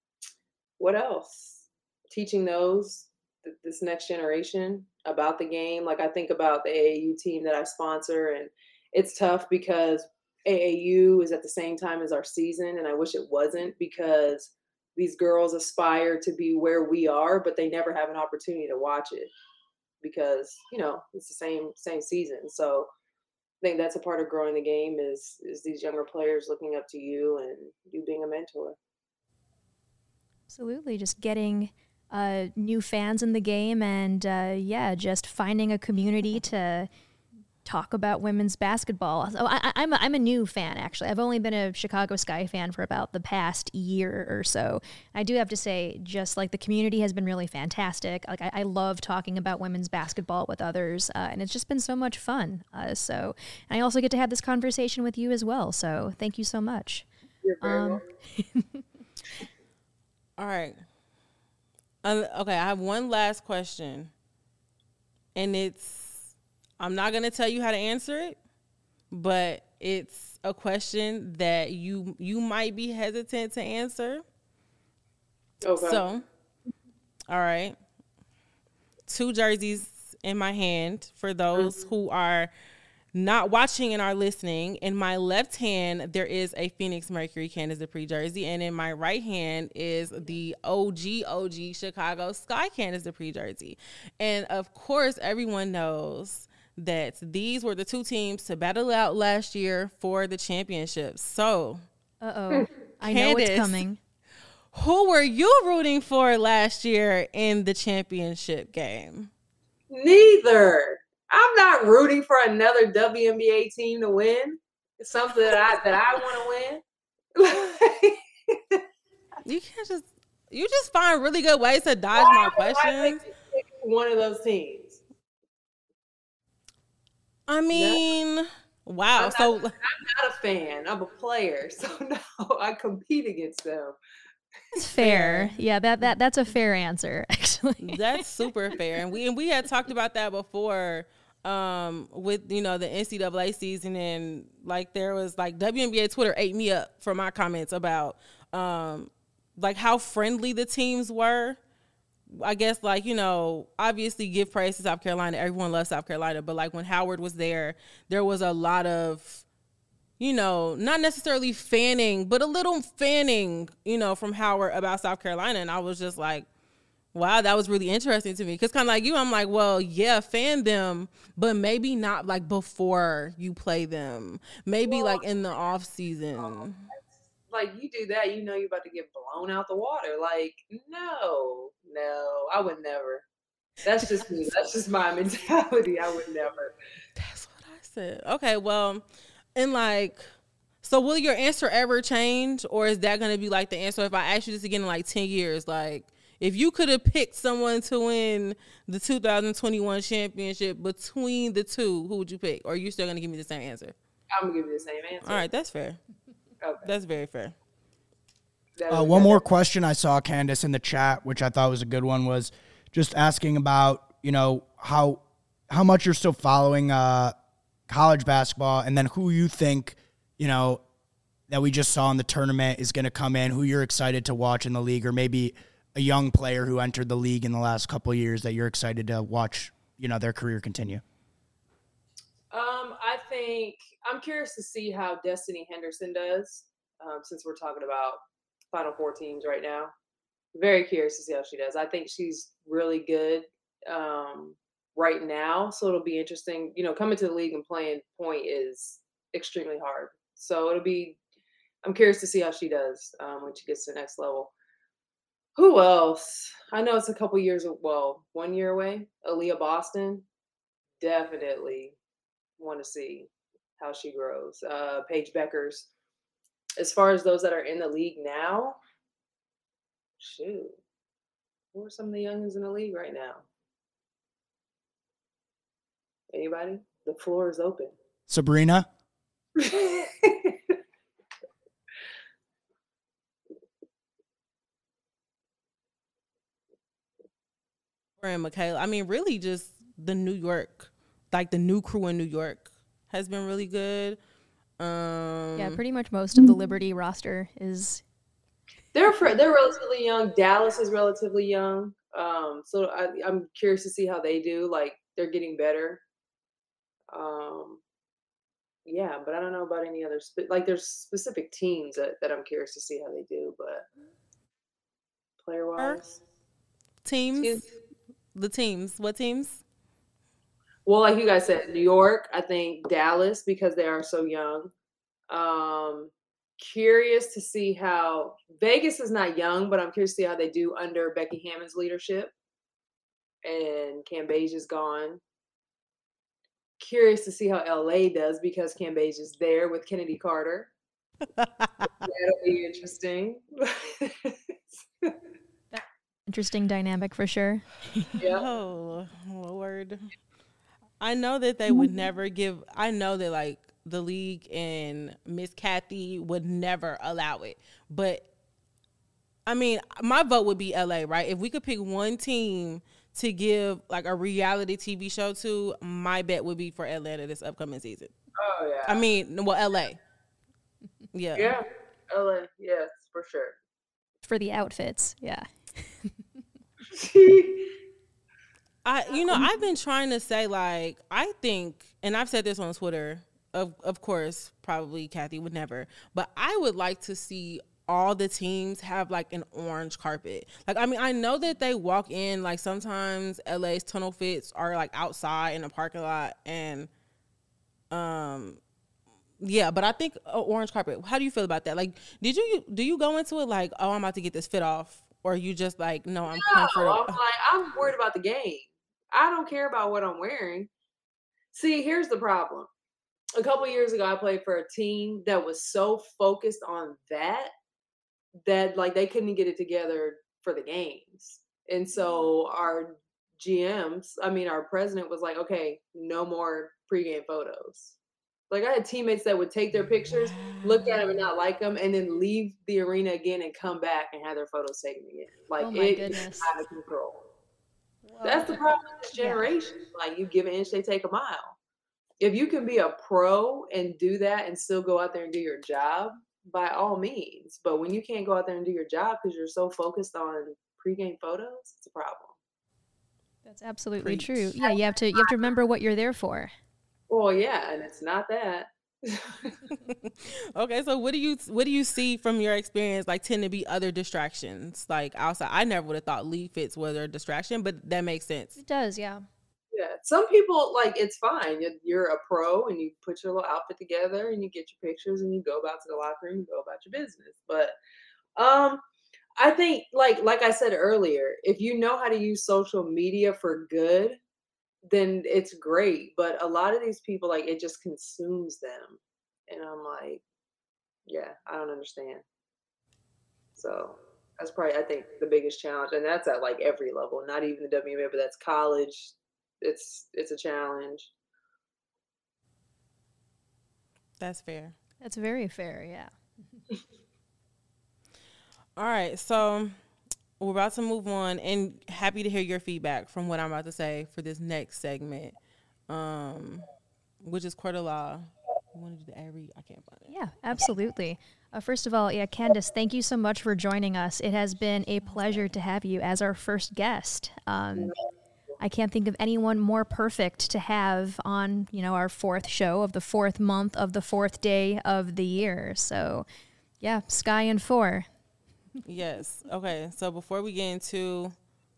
what else? Teaching those, th- this next generation about the game. Like, I think about the A A U team that I sponsor, and it's tough because A A U is at the same time as our season, and I wish it wasn't, because these girls aspire to be where we are, but they never have an opportunity to watch it because, you know, it's the same same season. So I think that's a part of growing the game is is these younger players looking up to you and you being a mentor. Absolutely. Just getting uh, new fans in the game and, uh, yeah, just finding a community to talk about women's basketball. So I, I'm, a, I'm a new fan, actually. I've only been a Chicago Sky fan for about the past year or so. I do have to say, just like the community has been really fantastic. Like I, I love talking about women's basketball with others, uh, and it's just been so much fun. Uh, so and I also get to have this conversation with you as well. So thank you so much. You're very um, welcome. All right. Uh, okay, I have one last question, and it's, I'm not going to tell you how to answer it, but it's a question that you you might be hesitant to answer. Okay. So, all right. Two jerseys in my hand for those mm-hmm. who are not watching and are listening. In my left hand, there is a Phoenix Mercury Candace Dupree jersey, and in my right hand is the O G O G Chicago Sky Candace Dupree jersey. And of course, everyone knows that these were the two teams to battle out last year for the championship. So, uh-oh, I know what's coming. Who were you rooting for last year in the championship game? Neither. I'm not rooting for another W N B A team to win. It's something that I that I want to win. You can't just you just find really good ways to dodge my questions. one of those teams? I mean, no. Wow. I'm so not, I'm not a fan. I'm a player. So no, I compete against them. That's fair. fair. Yeah, that, that that's a fair answer, actually. That's super fair. And we and we had talked about that before um, with, you know, the N C double A season. And, like, there was, like, W N B A Twitter ate me up for my comments about, um, like, how friendly the teams were. I guess, like, you know, obviously give praise to South Carolina. Everyone loves South Carolina. But, like, when Howard was there, there was a lot of, you know, not necessarily fanning, but a little fanning, you know, from Howard about South Carolina. And I was just like, wow, that was really interesting to me. Because kind of like you, I'm like, well, yeah, fan them, but maybe not, like, before you play them. Maybe, well, like, in the off season. Like, you do that, you know you're about to get blown out the water. Like, no, no, I would never. That's just me. That's just my mentality. I would never. That's what I said. Okay, well, and, like, so will your answer ever change? Or is that going to be, like, the answer if I ask you this again in, like, ten years? Like, if you could have picked someone to win the two thousand twenty-one championship between the two, who would you pick? Or are you still going to give me the same answer? I'm going to give you the same answer. All right, that's fair. Okay. That's very fair. Uh, one more question I saw, Candace, in the chat, which I thought was a good one, was just asking about, you know, how how much you're still following uh, college basketball, and then who you think, you know, that we just saw in the tournament is going to come in, who you're excited to watch in the league, or maybe a young player who entered the league in the last couple of years that you're excited to watch, you know, their career continue. Um, I think I'm curious to see how Destiny Henderson does, um, since we're talking about Final Four teams right now. Very curious to see how she does. I think she's really good um, right now, so it'll be interesting. You know, coming to the league and playing point is extremely hard. So it'll be – I'm curious to see how she does um, when she gets to the next level. Who else? I know it's a couple years – well, one year away. Aaliyah Boston, definitely – want to see how she grows. Uh, Paige Beckers. As far as those that are in the league now, shoot, who are some of the youngins in the league right now? Anybody? The floor is open. Sabrina. And Michaela. I mean, really just the New York, like the new crew in New York has been really good. Um, yeah, pretty much most of the Liberty roster is. They're they're relatively young. Dallas is relatively young. Um, so I, I'm curious to see how they do. Like, they're getting better. Um, yeah, but I don't know about any other spe- like there's specific teams that, that I'm curious to see how they do. But player wise, teams, Excuse- the teams, what teams? Well, like you guys said, New York, I think Dallas, because they are so young. Um, curious to see how Vegas is not young, but I'm curious to see how they do under Becky Hammon's leadership. And Cambage is gone. Curious to see how L A does because Cambage is there with Kennedy Carter. That'll be interesting. Interesting dynamic for sure. Yeah. Oh, Lord. I know that they would never give – I know that, like, the league and Miss Kathy would never allow it. But, I mean, my vote would be L A, right? If we could pick one team to give, like, a reality T V show to, my bet would be for Atlanta this upcoming season. Oh, yeah. I mean, well, L A. Yeah. Yeah, L A, yes, for sure. For the outfits, yeah. I, you know, I've been trying to say, like, I think, and I've said this on Twitter, of of course, probably Kathy would never, but I would like to see all the teams have, like, an orange carpet. Like, I mean, I know that they walk in, like, sometimes L A's tunnel fits are, like, outside in a parking lot, and, um, yeah, but I think uh, orange carpet, how do you feel about that? Like, did you, do you go into it like, oh, I'm about to get this fit off? Or are you just like, no, I'm no, comfortable? I'm like, I'm worried about the game. I don't care about what I'm wearing. See, here's the problem. A couple of years ago, I played for a team that was so focused on that, that, like, they couldn't get it together for the games. And so our G Ms, I mean, our president was like, okay, no more pregame photos. Like, I had teammates that would take their pictures, look at them and not like them, and then leave the arena again and come back and have their photos taken again. Like, Oh my it goodness. is out of control. Whoa. That's the problem with this generation. Yeah. Like, you give an inch, they take a mile. If you can be a pro and do that and still go out there and do your job, by all means. But when you can't go out there and do your job because you're so focused on pregame photos, it's a problem. That's absolutely Preach. true. Yeah, you have to you have to remember what you're there for. Well, yeah, and it's not that. Okay, so what do you what do you see from your experience like tend to be other distractions like outside? I never would have thought lead fits was a distraction, but that makes sense. It does, yeah. Yeah, some people, like, it's fine. You're- You're a pro and you put your little outfit together and you get your pictures and you go about to the locker room and go about your business. But um, I think, like like I said earlier, if you know how to use social media for good, then it's great. But a lot of these people, like, it just consumes them. And I'm like, yeah, I don't understand. So that's probably, I think, the biggest challenge. And that's at, like, every level, not even the W N B A, but that's college. It's it's a challenge. That's fair. That's very fair, yeah. All right, so we're about to move on, and happy to hear your feedback from what I'm about to say for this next segment, um, which is Court of Law. You want to do the every? I can't find it. Yeah, absolutely. Uh, first of all, yeah, Candace, thank you so much for joining us. It has been a pleasure to have you as our first guest. Um, I can't think of anyone more perfect to have on, you know, our fourth show of the fourth month of the fourth day of the year. So, yeah, Sky and four. Yes. Okay. So before we get into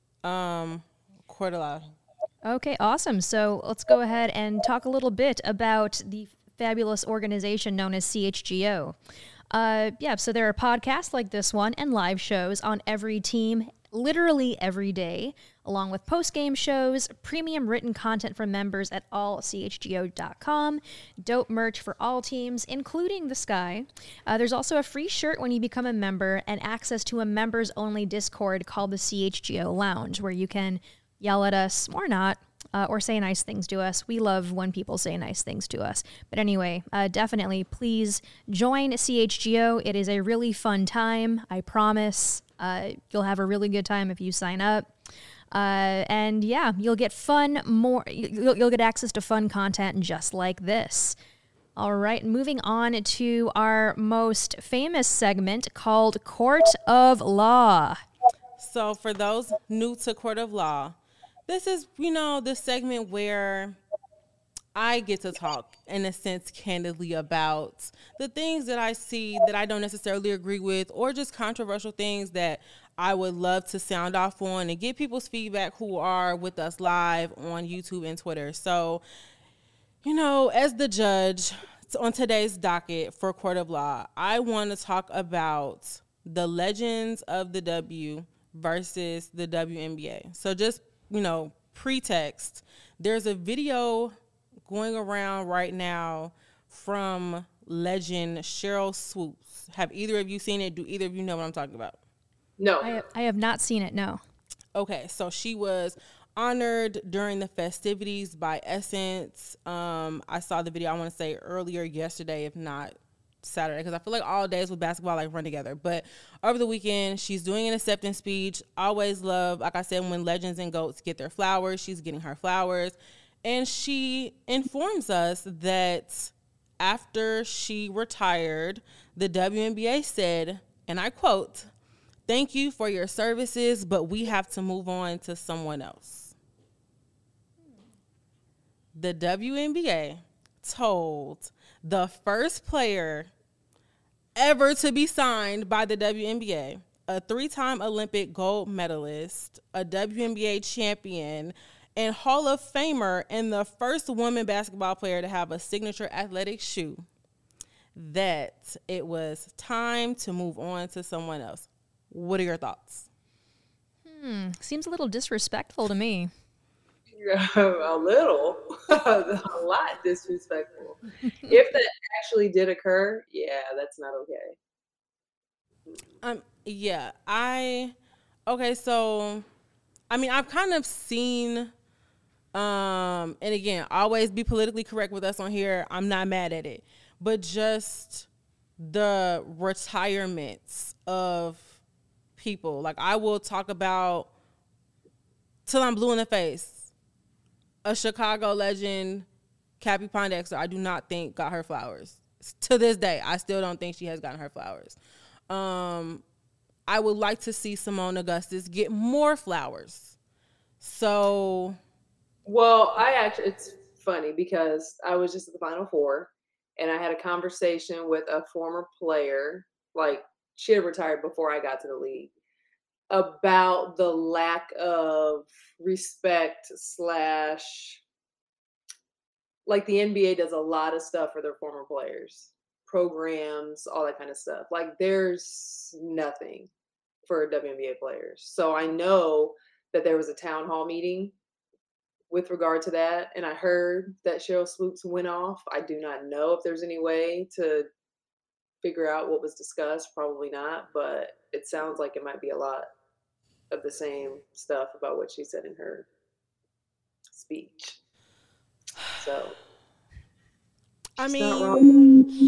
um, Court of Law. Okay, awesome. So let's go ahead and talk a little bit about the fabulous organization known as C H G O. Uh, yeah, so there are podcasts like this one and live shows on every team, literally every day, along with post-game shows, premium written content from members at all c h g o dot com, dope merch for all teams, including the Sky. Uh, there's also a free shirt when you become a member and access to a members-only Discord called the C H G O Lounge, where you can yell at us or not, uh, or say nice things to us. We love when people say nice things to us. But anyway, uh, definitely please join C H G O. It is a really fun time, I promise. Uh, you'll have a really good time if you sign up. Uh, and yeah, you'll get fun more, you'll, you'll get access to fun content just like this. All right, moving on to our most famous segment called Court of Law. So for those new to Court of Law, this is, you know, the segment where I get to talk, in a sense, candidly about the things that I see that I don't necessarily agree with, or just controversial things that I would love to sound off on and get people's feedback who are with us live on YouTube and Twitter. So, you know, as the judge on today's docket for Court of Law, I want to talk about the legends of the W versus the W N B A. So just, you know, pretext, there's a video going around right now from legend Sheryl Swoopes. Have either of you seen it? Do either of you know what I'm talking about? No. I have, I have not seen it, no. Okay, so she was honored during the festivities by Essence. Um, I saw the video, I want to say earlier yesterday, if not Saturday, because I feel like all days with basketball like run together. But over the weekend, she's doing an acceptance speech. Always love, like I said, when legends and GOATs get their flowers, she's getting her flowers. And she informs us that after she retired, the W N B A said, and I quote, "Thank you for your services, but we have to move on to someone else." The W N B A told the first player ever to be signed by the W N B A, a three-time Olympic gold medalist, a W N B A champion, and Hall of Famer, and the first woman basketball player to have a signature athletic shoe, that it was time to move on to someone else. What are your thoughts? Hmm, seems a little disrespectful to me. A little, a lot disrespectful. If that actually did occur, yeah, that's not okay. Um, yeah, I, okay, so I mean, I've kind of seen, um, and again, always be politically correct with us on here. I'm not mad at it. But just the retirements of people. Like, I will talk about, till I'm blue in the face, a Chicago legend, Cappie Pondexter, I do not think got her flowers. To this day, I still don't think she has gotten her flowers. Um, I would like to see Simone Augustus get more flowers. So, well, I actually, it's funny because I was just at the Final Four, and I had a conversation with a former player, like she had retired before I got to the league, about the lack of respect slash, like the N B A does a lot of stuff for their former players, programs, all that kind of stuff. Like there's nothing for W N B A players. So I know that there was a town hall meeting with regard to that. And I heard that Sheryl Swoopes went off. I do not know if there's any way to figure out what was discussed. Probably not, but it sounds like it might be a lot of the same stuff about what she said in her speech. So, I mean,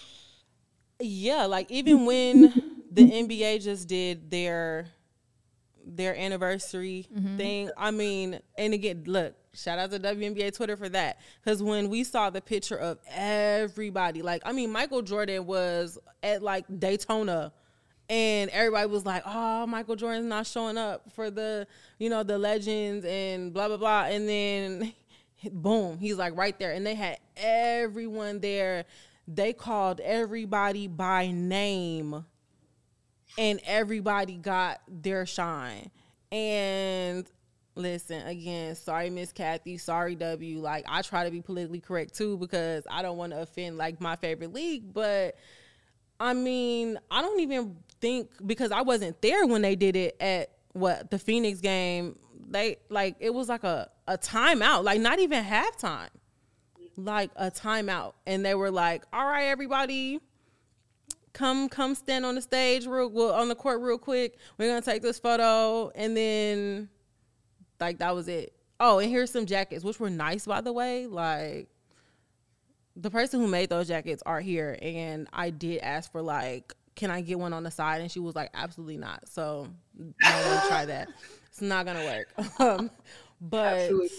yeah, like even when the N B A just did their their anniversary mm-hmm. thing, I mean, and again, look, shout out to W N B A Twitter for that, because when we saw the picture of everybody, like, I mean, Michael Jordan was at like Daytona, and everybody was like, oh, Michael Jordan's not showing up for the, you know, the legends and blah, blah, blah. And then, boom, he's like right there. And they had everyone there. They called everybody by name, and everybody got their shine. And listen, again, sorry, Miss Kathy, sorry, W. Like, I try to be politically correct, too, because I don't want to offend, like, my favorite league. But, I mean, I don't even think, because I wasn't there when they did it at, what, the Phoenix game. They, like, it was like a, a timeout, like, not even halftime. Like, a timeout. And they were like, all right, everybody, come come stand on the stage, real well, on the court real quick. We're going to take this photo. And then, like, that was it. Oh, and here's some jackets, which were nice, by the way. Like, the person who made those jackets are here. And I did ask for, like, can I get one on the side? And she was like, absolutely not. So I don't want to try that. It's not going to work. Um, but, absolutely.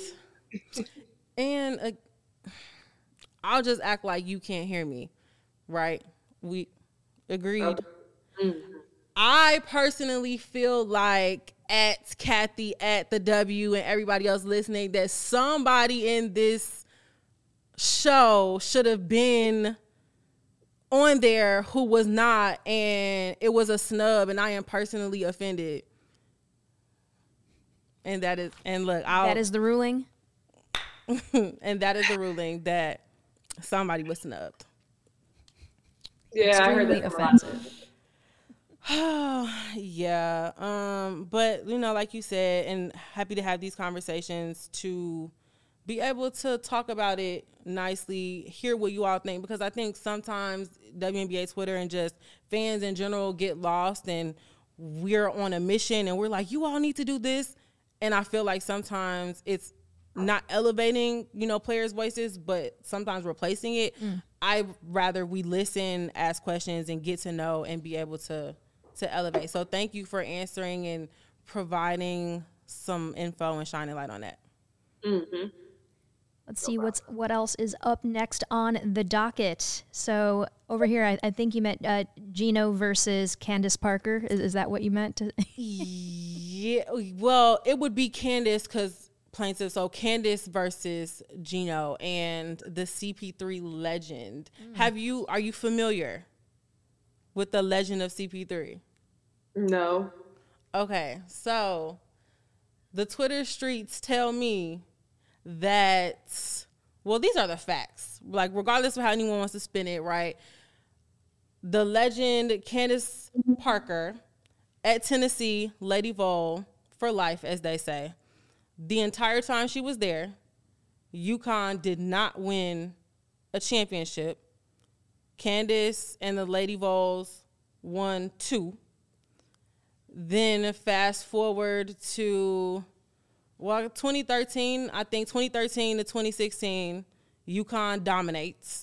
and uh, I'll just act like you can't hear me, right? We agreed. Okay. Mm-hmm. I personally feel like at Kathy, at the W, and everybody else listening, that somebody in this show should have been on there who was not, and it was a snub, and I am personally offended. And that is, and look, I'll, that is the ruling. And that is the ruling, that somebody was snubbed. Yeah, extremely I heard that offensive. Yeah, um, but you know, like you said, and happy to have these conversations to be able to talk about it nicely, hear what you all think, because I think sometimes W N B A Twitter and just fans in general get lost, and we're on a mission and we're like, you all need to do this, and I feel like sometimes it's not elevating, you know, players' voices, but sometimes replacing it. Mm. I'd rather we listen, ask questions, and get to know and be able to to elevate. So thank you for answering and providing some info and shining light on that. Mm-hmm. Let's see what's what else is up next on the docket. So over here, I, I think you meant uh, Gino versus Candace Parker. Is, is that what you meant? To- yeah. Well, it would be Candace because plaintiff. So Candace versus Gino and the C P three legend. Mm. Have you? Are you familiar with the legend of C P three? No. Okay, so the Twitter streets tell me that, well, these are the facts. Like, regardless of how anyone wants to spin it, right? The legend Candace Parker at Tennessee, Lady Vol for life, as they say. The entire time she was there, UConn did not win a championship. Candace and the Lady Vols won two. Then fast forward to, well, twenty thirteen, I think twenty thirteen to twenty sixteen, UConn dominates.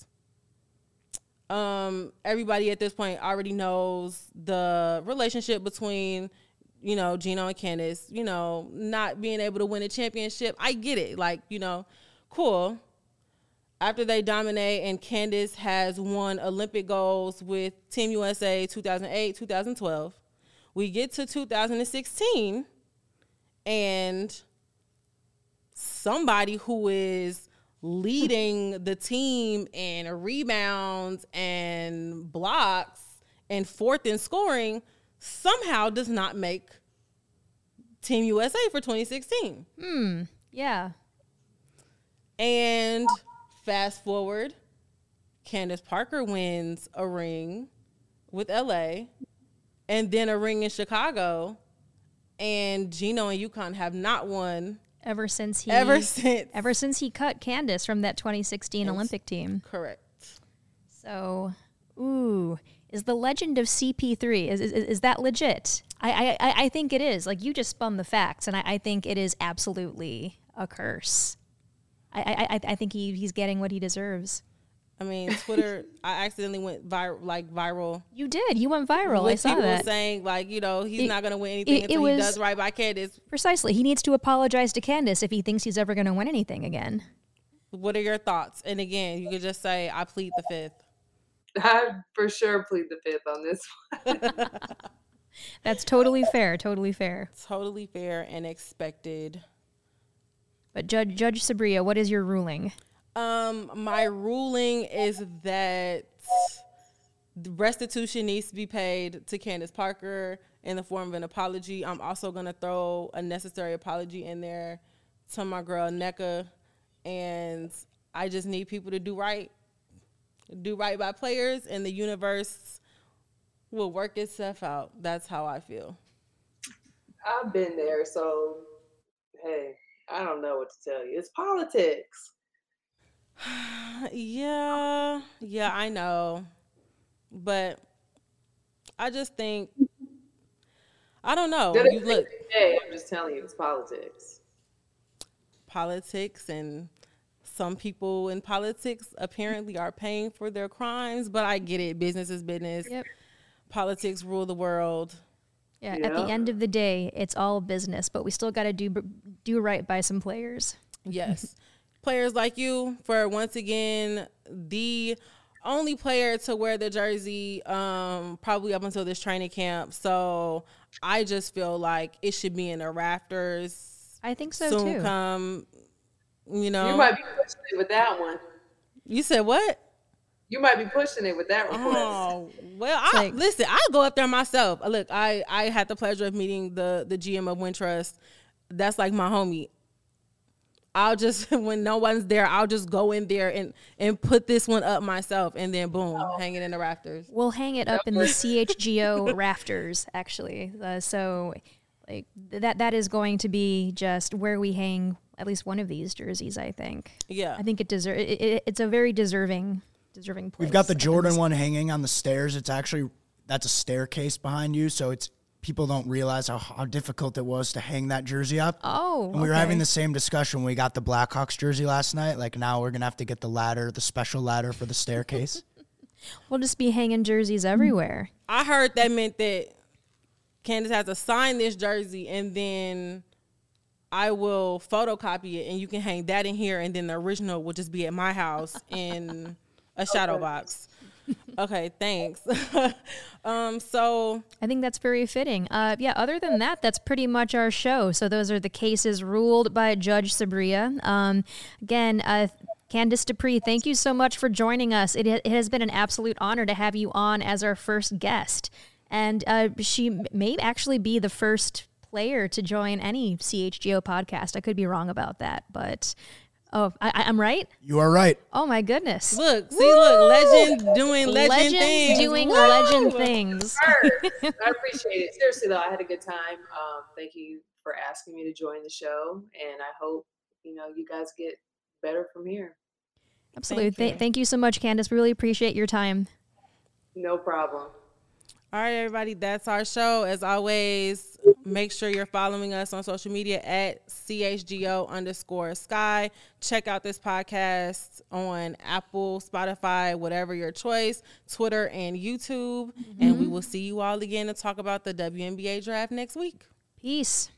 Um, everybody at this point already knows the relationship between, you know, Gino and Candace, you know, not being able to win a championship. I get it. Like, you know, cool. After they dominate and Candace has won Olympic golds with Team U S A two thousand eight, two thousand twelve, we get to two thousand sixteen and somebody who is leading the team in rebounds and blocks and fourth in scoring somehow does not make Team U S A for twenty sixteen. Hmm. Yeah. And fast forward, Candace Parker wins a ring with L A and then a ring in Chicago, and Gino and UConn have not won Ever since he ever since ever since he cut Candace from that twenty sixteen Yes. Olympic team. Correct. So, ooh, is the legend of C P three is is, is that legit? I, I I think it is. Like, you just spun the facts, and I, I think it is absolutely a curse. I I I think he he's getting what he deserves. I mean, Twitter, I accidentally went viral, like viral. You did. You went viral. With I saw people that. saying, like, you know, he's It- not going to win anything it- it until was- he does right by Candace. Precisely. He needs to apologize to Candace if he thinks he's ever going to win anything again. What are your thoughts? And again, you could just say, I plead the fifth. I for sure plead the fifth on this one. That's totally fair. Totally fair. Totally fair and expected. But Judge Judge Sabria, what is your ruling? Um, my ruling is that the restitution needs to be paid to Candace Parker in the form of an apology. I'm also going to throw a necessary apology in there to my girl Nneka, and I just need people to do right. Do right by players, and the universe will work itself out. That's how I feel. I've been there, so hey, I don't know what to tell you. It's politics. Yeah, yeah, I know. But I just think, I don't know. Good You look, Hey, I'm just telling you, it's politics. politics, and some people in politics apparently are paying for their crimes, but I get it. Business is business. Yep. Politics rule the world. Yeah, at the Yeah. end of the day, it's all business, but we still got to do do right by some players. Yes. Players like you for, once again, the only player to wear the jersey um, probably up until this training camp. So I just feel like it should be in the rafters. I think so soon too. come, you know. You might be pushing it with that one. You said what? You might be pushing it with that request. Oh, well, I, like- listen, I'll go up there myself. Look, I, I had the pleasure of meeting the, the G M of Wintrust. That's like my homie. I'll just, when no one's there, I'll just go in there and, and put this one up myself, and then boom, hang it in the rafters. We'll hang it up in the C H G O rafters, actually. Uh, so, like that that is going to be just where we hang at least one of these jerseys. I think. Yeah. I think it deserve. It, it, it's a very deserving, deserving place. We've got the up in Jordan this- one hanging on the stairs. It's actually, that's a staircase behind you, so it's people don't realize how, how difficult it was to hang that jersey up. Oh, And we were okay. having the same discussion when we got the Blackhawks jersey last night. Like, now we're going to have to get the ladder, the special ladder for the staircase. We'll just be hanging jerseys everywhere. I heard that meant that Candace has to sign this jersey, and then I will photocopy it, and you can hang that in here, and then the original will just be at my house in a shadow box. Okay, thanks. um, so I think that's very fitting. Uh, yeah, other than that, that's pretty much our show. So those are the cases ruled by Judge Sabria. Um, again, uh, Candace Dupree, thank you so much for joining us. It, it has been an absolute honor to have you on as our first guest. And uh, she may actually be the first player to join any C H G O podcast. I could be wrong about that, but oh, I, I'm right? You are right. Oh, my goodness. look, see, look, legend doing legend Legends things. doing Woo! legend things. Sure. I appreciate it. Seriously, though, I had a good time. Um, thank you for asking me to join the show, and I hope, you know, you guys get better from here. Absolutely. Thank you. Th- thank you so much, Candace. We really appreciate your time. No problem. All right, everybody, that's our show. As always, make sure you're following us on social media at C H G O underscore Sky. Check out this podcast on Apple, Spotify, whatever your choice, Twitter, and YouTube. Mm-hmm. And we will see you all again to talk about the W N B A draft next week. Peace.